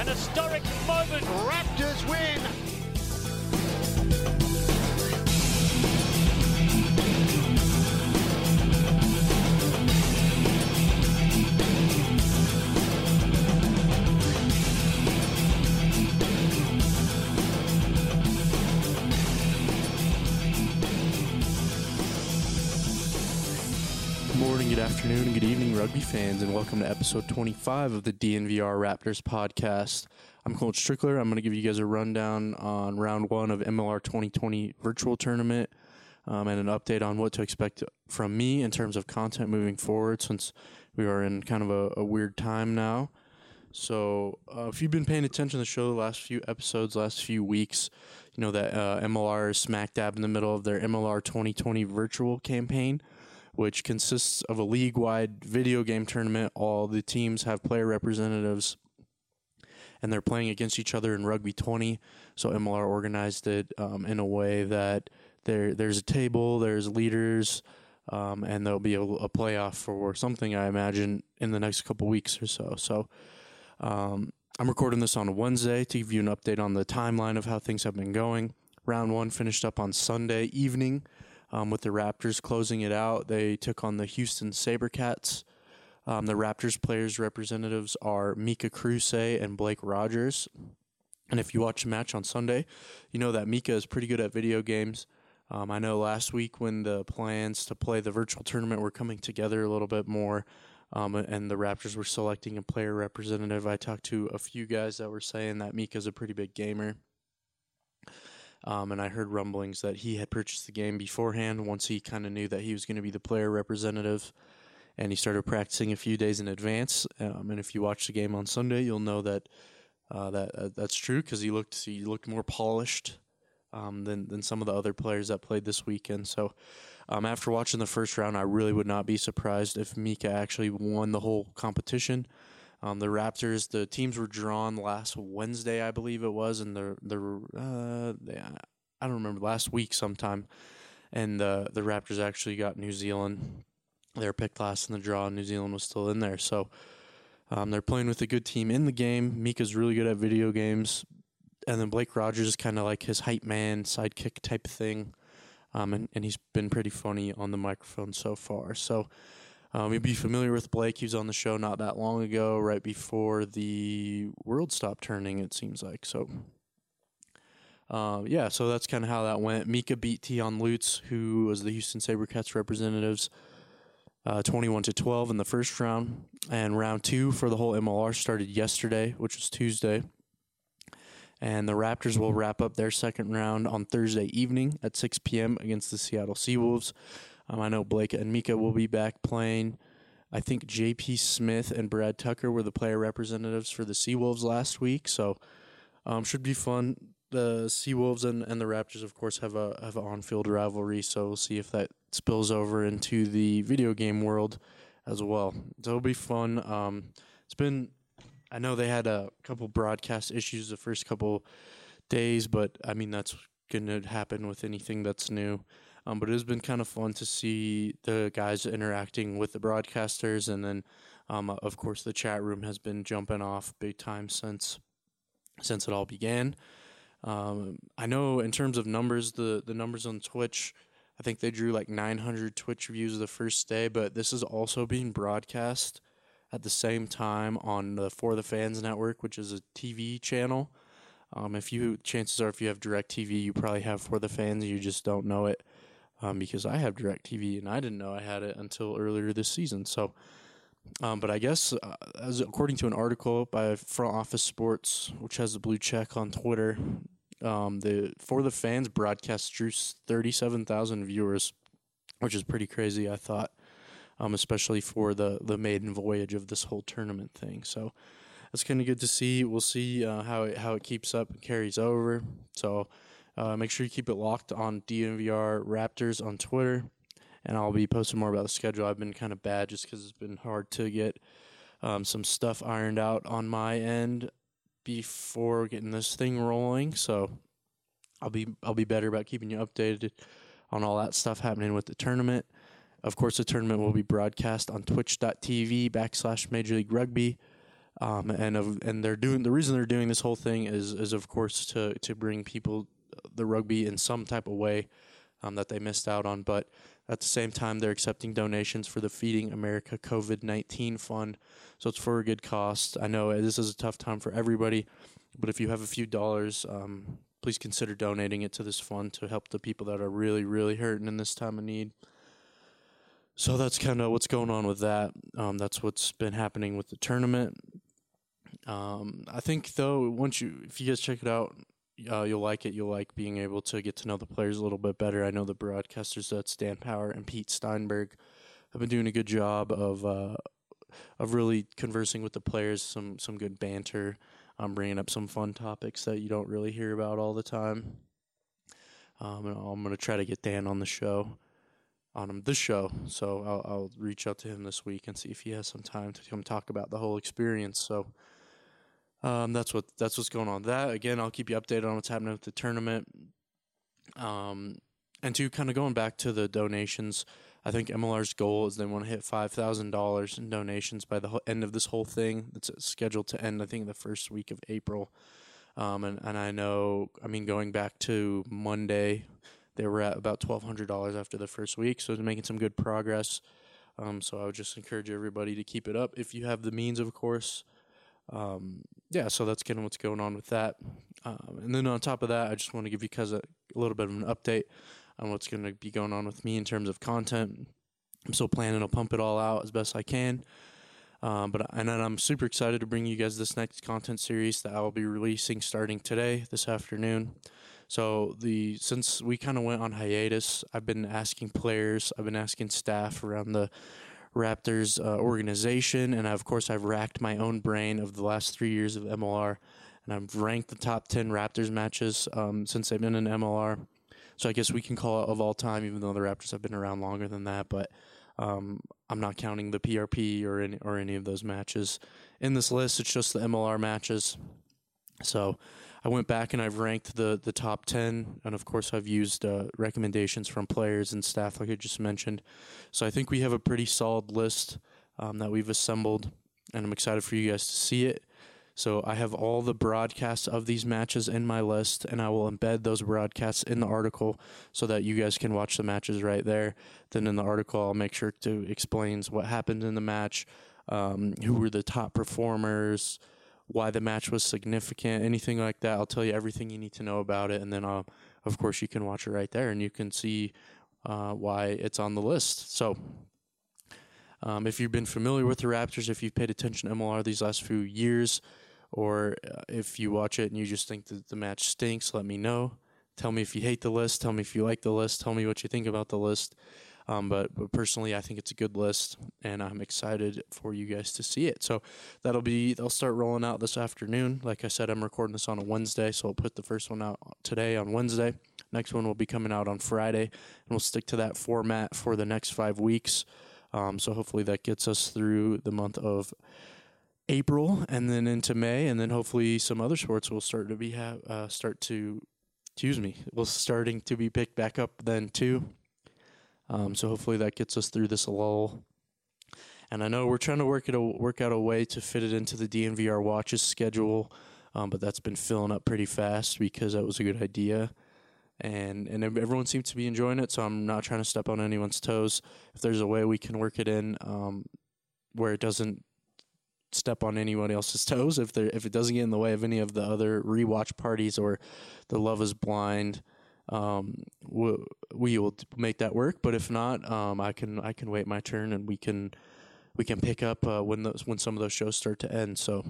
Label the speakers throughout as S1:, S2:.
S1: An historic moment.
S2: Raptors win.
S3: Good morning, good afternoon, and good evening, rugby fans, and welcome to episode 25 of the DNVR Raptors podcast. I'm Colt Strickler. I'm going to give you guys a rundown on round one of MLR 2020 virtual tournament and an update on what to expect from me in terms of content moving forward, since we are in kind of a weird time now. So if you've been paying attention to the show the last few episodes, last few weeks, you know that MLR is smack dab in the middle of their MLR 2020 virtual campaign, which consists of a league-wide video game tournament. All the teams have player representatives, and they're playing against each other in Rugby 20. So MLR organized it in a way that there's a table, there's leaders, and there'll be a playoff for something, I imagine, in the next couple weeks or so. So I'm recording this on a Wednesday to give you an update on the timeline of how things have been going. Round one finished up on Sunday evening. With the Raptors closing it out. They took on the Houston SaberCats. The Raptors players' representatives are Mika Kruse and Blake Rogers. And if you watch the match on Sunday, you know that Mika is pretty good at video games. I know last week when the plans to play the virtual tournament were coming together a little bit more, and the Raptors were selecting a player representative, I talked to a few guys that were saying that Mika's a pretty big gamer. And I heard rumblings that he had purchased the game beforehand once he kind of knew that he was going to be the player representative, and he started practicing a few days in advance. And if you watch the game on Sunday, you'll know that that's true, because he looked more polished than some of the other players that played this weekend. So after watching the first round, I really would not be surprised if Mika actually won the whole competition. The Raptors, the teams were drawn last Wednesday, I believe it was, and I don't remember, last week sometime, and the Raptors actually got New Zealand. They were picked last in the draw, and New Zealand was still in there. So they're playing with a good team in the game. Mika's really good at video games, and then Blake Rogers is kind of like his hype man, sidekick type thing, and he's been pretty funny on the microphone so far. So you'd be familiar with Blake. He was on the show not that long ago, right before the world stopped turning, it seems like. So, so that's kind of how that went. Mika beat Tion Lutz, who was the Houston SaberCats representatives, 21-12 in the first round. And round two for the whole MLR started yesterday, which was Tuesday. And the Raptors will wrap up their second round on Thursday evening at 6 p.m. against the Seattle Seawolves. I know Blake and Mika will be back playing. I think J.P. Smith and Brad Tucker were the player representatives for the Seawolves last week, so should be fun. The Seawolves and the Raptors, of course, have an on-field rivalry, so we'll see if that spills over into the video game world as well. So it'll be fun. I know they had a couple broadcast issues the first couple days, but I mean that's going to happen with anything that's new. But it has been kind of fun to see the guys interacting with the broadcasters, and then, of course, the chat room has been jumping off big time since it all began. I know in terms of numbers, the numbers on Twitch, I think they drew like 900 Twitch views the first day, but this is also being broadcast at the same time on the For the Fans network, which is a TV channel. Chances are if you have DirecTV, you probably have For the Fans, you just don't know it. Because I have DirecTV and I didn't know I had it until earlier this season. So, but I guess as according to an article by Front Office Sports, which has the blue check on Twitter, the For the Fans broadcast drew 37,000 viewers, which is pretty crazy, I thought, especially for the maiden voyage of this whole tournament thing. So that's kind of good to see. We'll see how it keeps up and carries over. So. Make sure you keep it locked on DNVR Raptors on Twitter, and I'll be posting more about the schedule. I've been kind of bad just because it's been hard to get some stuff ironed out on my end before getting this thing rolling. So I'll be better about keeping you updated on all that stuff happening with the tournament. Of course, the tournament will be broadcast on twitch.tv/Major League Rugby. and the reason they're doing this whole thing is of course to bring people the rugby in some type of way that they missed out on, but at the same time they're accepting donations for the Feeding America COVID-19 fund, so it's for a good cost. I know this is a tough time for everybody, but if you have a few dollars, please consider donating it to this fund to help the people that are really, really hurting in this time of need. So that's kind of what's going on with that. That's what's been happening with the tournament. I think though, if you guys check it out, you'll like it. You'll like being able to get to know the players a little bit better. I know the broadcasters, that's Dan Power and Pete Steinberg, have been doing a good job of really conversing with the players. Some good banter. Bringing up some fun topics that you don't really hear about all the time. And I'm gonna try to get Dan on the show. So I'll reach out to him this week and see if he has some time to come talk about the whole experience. So that's what's going on. That again, I'll keep you updated on what's happening with the tournament. And to kind of going back to the donations, I think MLR's goal is they want to hit $5,000 in donations by the end of this whole thing. It's scheduled to end, I think, the first week of April. And I know, going back to Monday, they were at about $1,200 after the first week, so they're making some good progress. So I would just encourage everybody to keep it up if you have the means, of course. So that's kind of what's going on with that. And then on top of that, I just want to give you guys a little bit of an update on what's going to be going on with me in terms of content. I'm still planning to pump it all out as best I can. But I'm super excited to bring you guys this next content series that I will be releasing starting today, this afternoon. So since we kind of went on hiatus, I've been asking players, I've been asking staff around the Raptors organization, and of course I've racked my own brain of the last 3 years of MLR, and I've ranked the top 10 Raptors matches since they've been in MLR. So I guess we can call it of all time, even though the Raptors have been around longer than that. But I'm not counting the PRP or any of those matches in this list. It's just the MLR matches. So I went back and I've ranked the top 10, and of course I've used recommendations from players and staff like I just mentioned. So I think we have a pretty solid list that we've assembled, and I'm excited for you guys to see it. So I have all the broadcasts of these matches in my list, and I will embed those broadcasts in the article so that you guys can watch the matches right there. Then in the article, I'll make sure to explain what happened in the match, who were the top performers, why the match was significant, anything like that. I'll tell you everything you need to know about it, and then of course you can watch it right there, and you can see why it's on the list. So if you've been familiar with the Raptors, if you've paid attention to MLR these last few years, or if you watch it and you just think that the match stinks, let me know. Tell me if you hate the list. Tell me if you like the list. Tell me what you think about the list. But personally, I think it's a good list, and I'm excited for you guys to see it. So they'll start rolling out this afternoon. Like I said, I'm recording this on a Wednesday, so I'll put the first one out today on Wednesday. Next one will be coming out on Friday, and we'll stick to that format for the next 5 weeks. So hopefully that gets us through the month of April and then into May, and then hopefully some other sports will starting to be picked back up then too. So hopefully that gets us through this lull. And I know we're trying to work out a way to fit it into the DNVR Watches schedule, but that's been filling up pretty fast because that was a good idea. And everyone seems to be enjoying it, so I'm not trying to step on anyone's toes. If there's a way we can work it in where it doesn't step on anyone else's toes, if it doesn't get in the way of any of the other rewatch parties or the Love Is Blind, we will make that work. But if not, I can wait my turn, and we can pick up when some of those shows start to end. So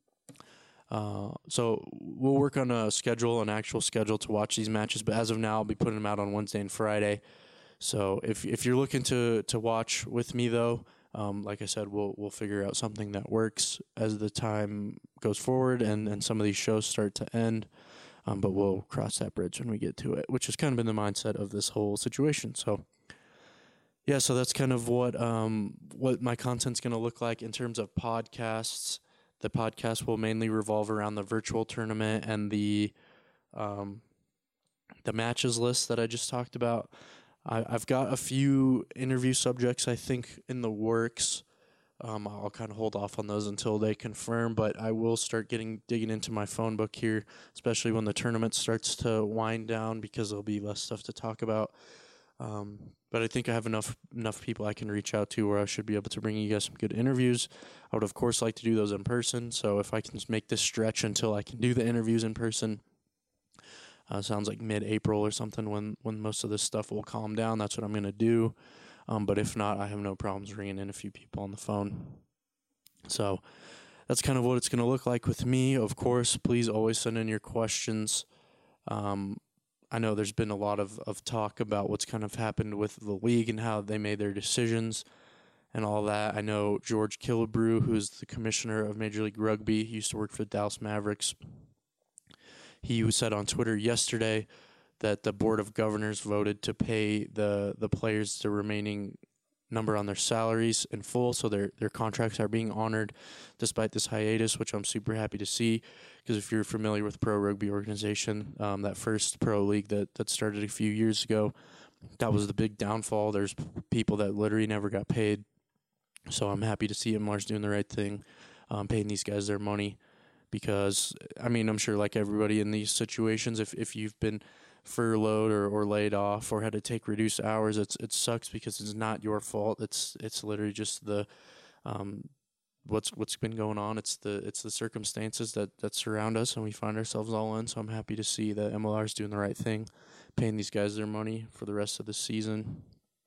S3: we'll work on an actual schedule to watch these matches. But as of now, I'll be putting them out on Wednesday and Friday. So if you're looking to watch with me though, like I said, we'll figure out something that works as the time goes forward and some of these shows start to end. But we'll cross that bridge when we get to it, which has kind of been the mindset of this whole situation. So yeah, so that's kind of what my content's going to look like in terms of podcasts. The podcast will mainly revolve around the virtual tournament and the matches list that I just talked about. I've got a few interview subjects, I think, in the works I'll kind of hold off on those until they confirm, but I will start digging into my phone book here, especially when the tournament starts to wind down, because there'll be less stuff to talk about. But I think I have enough people I can reach out to where I should be able to bring you guys some good interviews. I would, of course, like to do those in person. So if I can just make this stretch until I can do the interviews in person, sounds like mid-April or something when most of this stuff will calm down. That's what I'm going to do. But if not, I have no problems ringing in a few people on the phone. So that's kind of what it's going to look like with me. Of course, please always send in your questions. I know there's been a lot of talk about what's kind of happened with the league and how they made their decisions and all that. I know George Killebrew, who is the commissioner of Major League Rugby, he used to work for the Dallas Mavericks. He said on Twitter yesterday that the Board of Governors voted to pay the players the remaining number on their salaries in full, so their contracts are being honored despite this hiatus, which I'm super happy to see, because if you're familiar with Pro Rugby Organization, that first pro league that started a few years ago, that was the big downfall. There's people that literally never got paid, so I'm happy to see MLR's doing the right thing, paying these guys their money, because, I mean, I'm sure like everybody in these situations, if you've been furloughed or laid off or had to take reduced hours, it sucks because it's not your fault. It's literally just the what's been going on. It's the circumstances that surround us and we find ourselves all in. So I'm happy to see that MLR is doing the right thing, paying these guys their money for the rest of the season.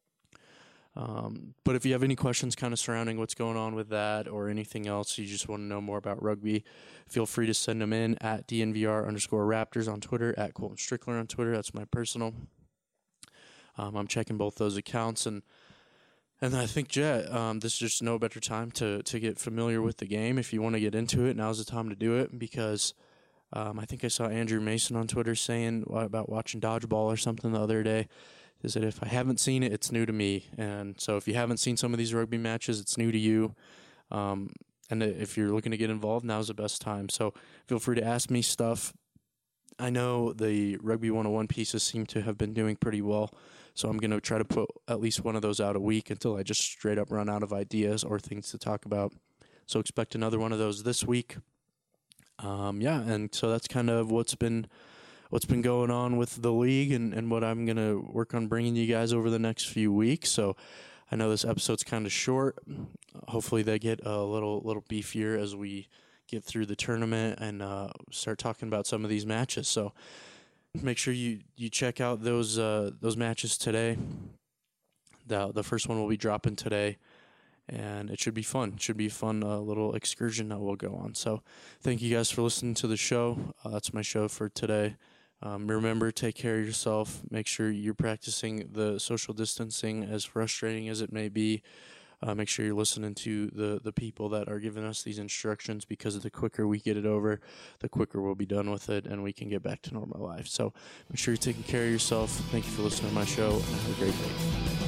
S3: But if you have any questions kind of surrounding what's going on with that or anything else, you just want to know more about rugby, feel free to send them in at DNVR_Raptors on Twitter, at Colton Strickler on Twitter. That's my personal. I'm checking both those accounts, and I think, Jet, this is just no better time to get familiar with the game. If you want to get into it, now's the time to do it, because I think I saw Andrew Mason on Twitter saying about watching dodgeball or something the other day. Is that if I haven't seen it, it's new to me. And so if you haven't seen some of these rugby matches, it's new to you. And if you're looking to get involved, now's the best time. So feel free to ask me stuff. I know the Rugby 101 pieces seem to have been doing pretty well, so I'm going to try to put at least one of those out a week until I just straight up run out of ideas or things to talk about. So expect another one of those this week. And so that's kind of what's been going on with the league and what I'm going to work on bringing you guys over the next few weeks. So I know this episode's kind of short. Hopefully they get a little beefier as we get through the tournament and start talking about some of these matches. So make sure you check out those matches today. The first one will be dropping today, and it should be fun. It should be a fun little excursion that we'll go on. So thank you guys for listening to the show. That's my show for today. Remember, take care of yourself. Make sure you're practicing the social distancing, as frustrating as it may be. Make sure you're listening to the people that are giving us these instructions, because the quicker we get it over, the quicker we'll be done with it and we can get back to normal life. So make sure you're taking care of yourself. Thank you for listening to my show, and have a great day.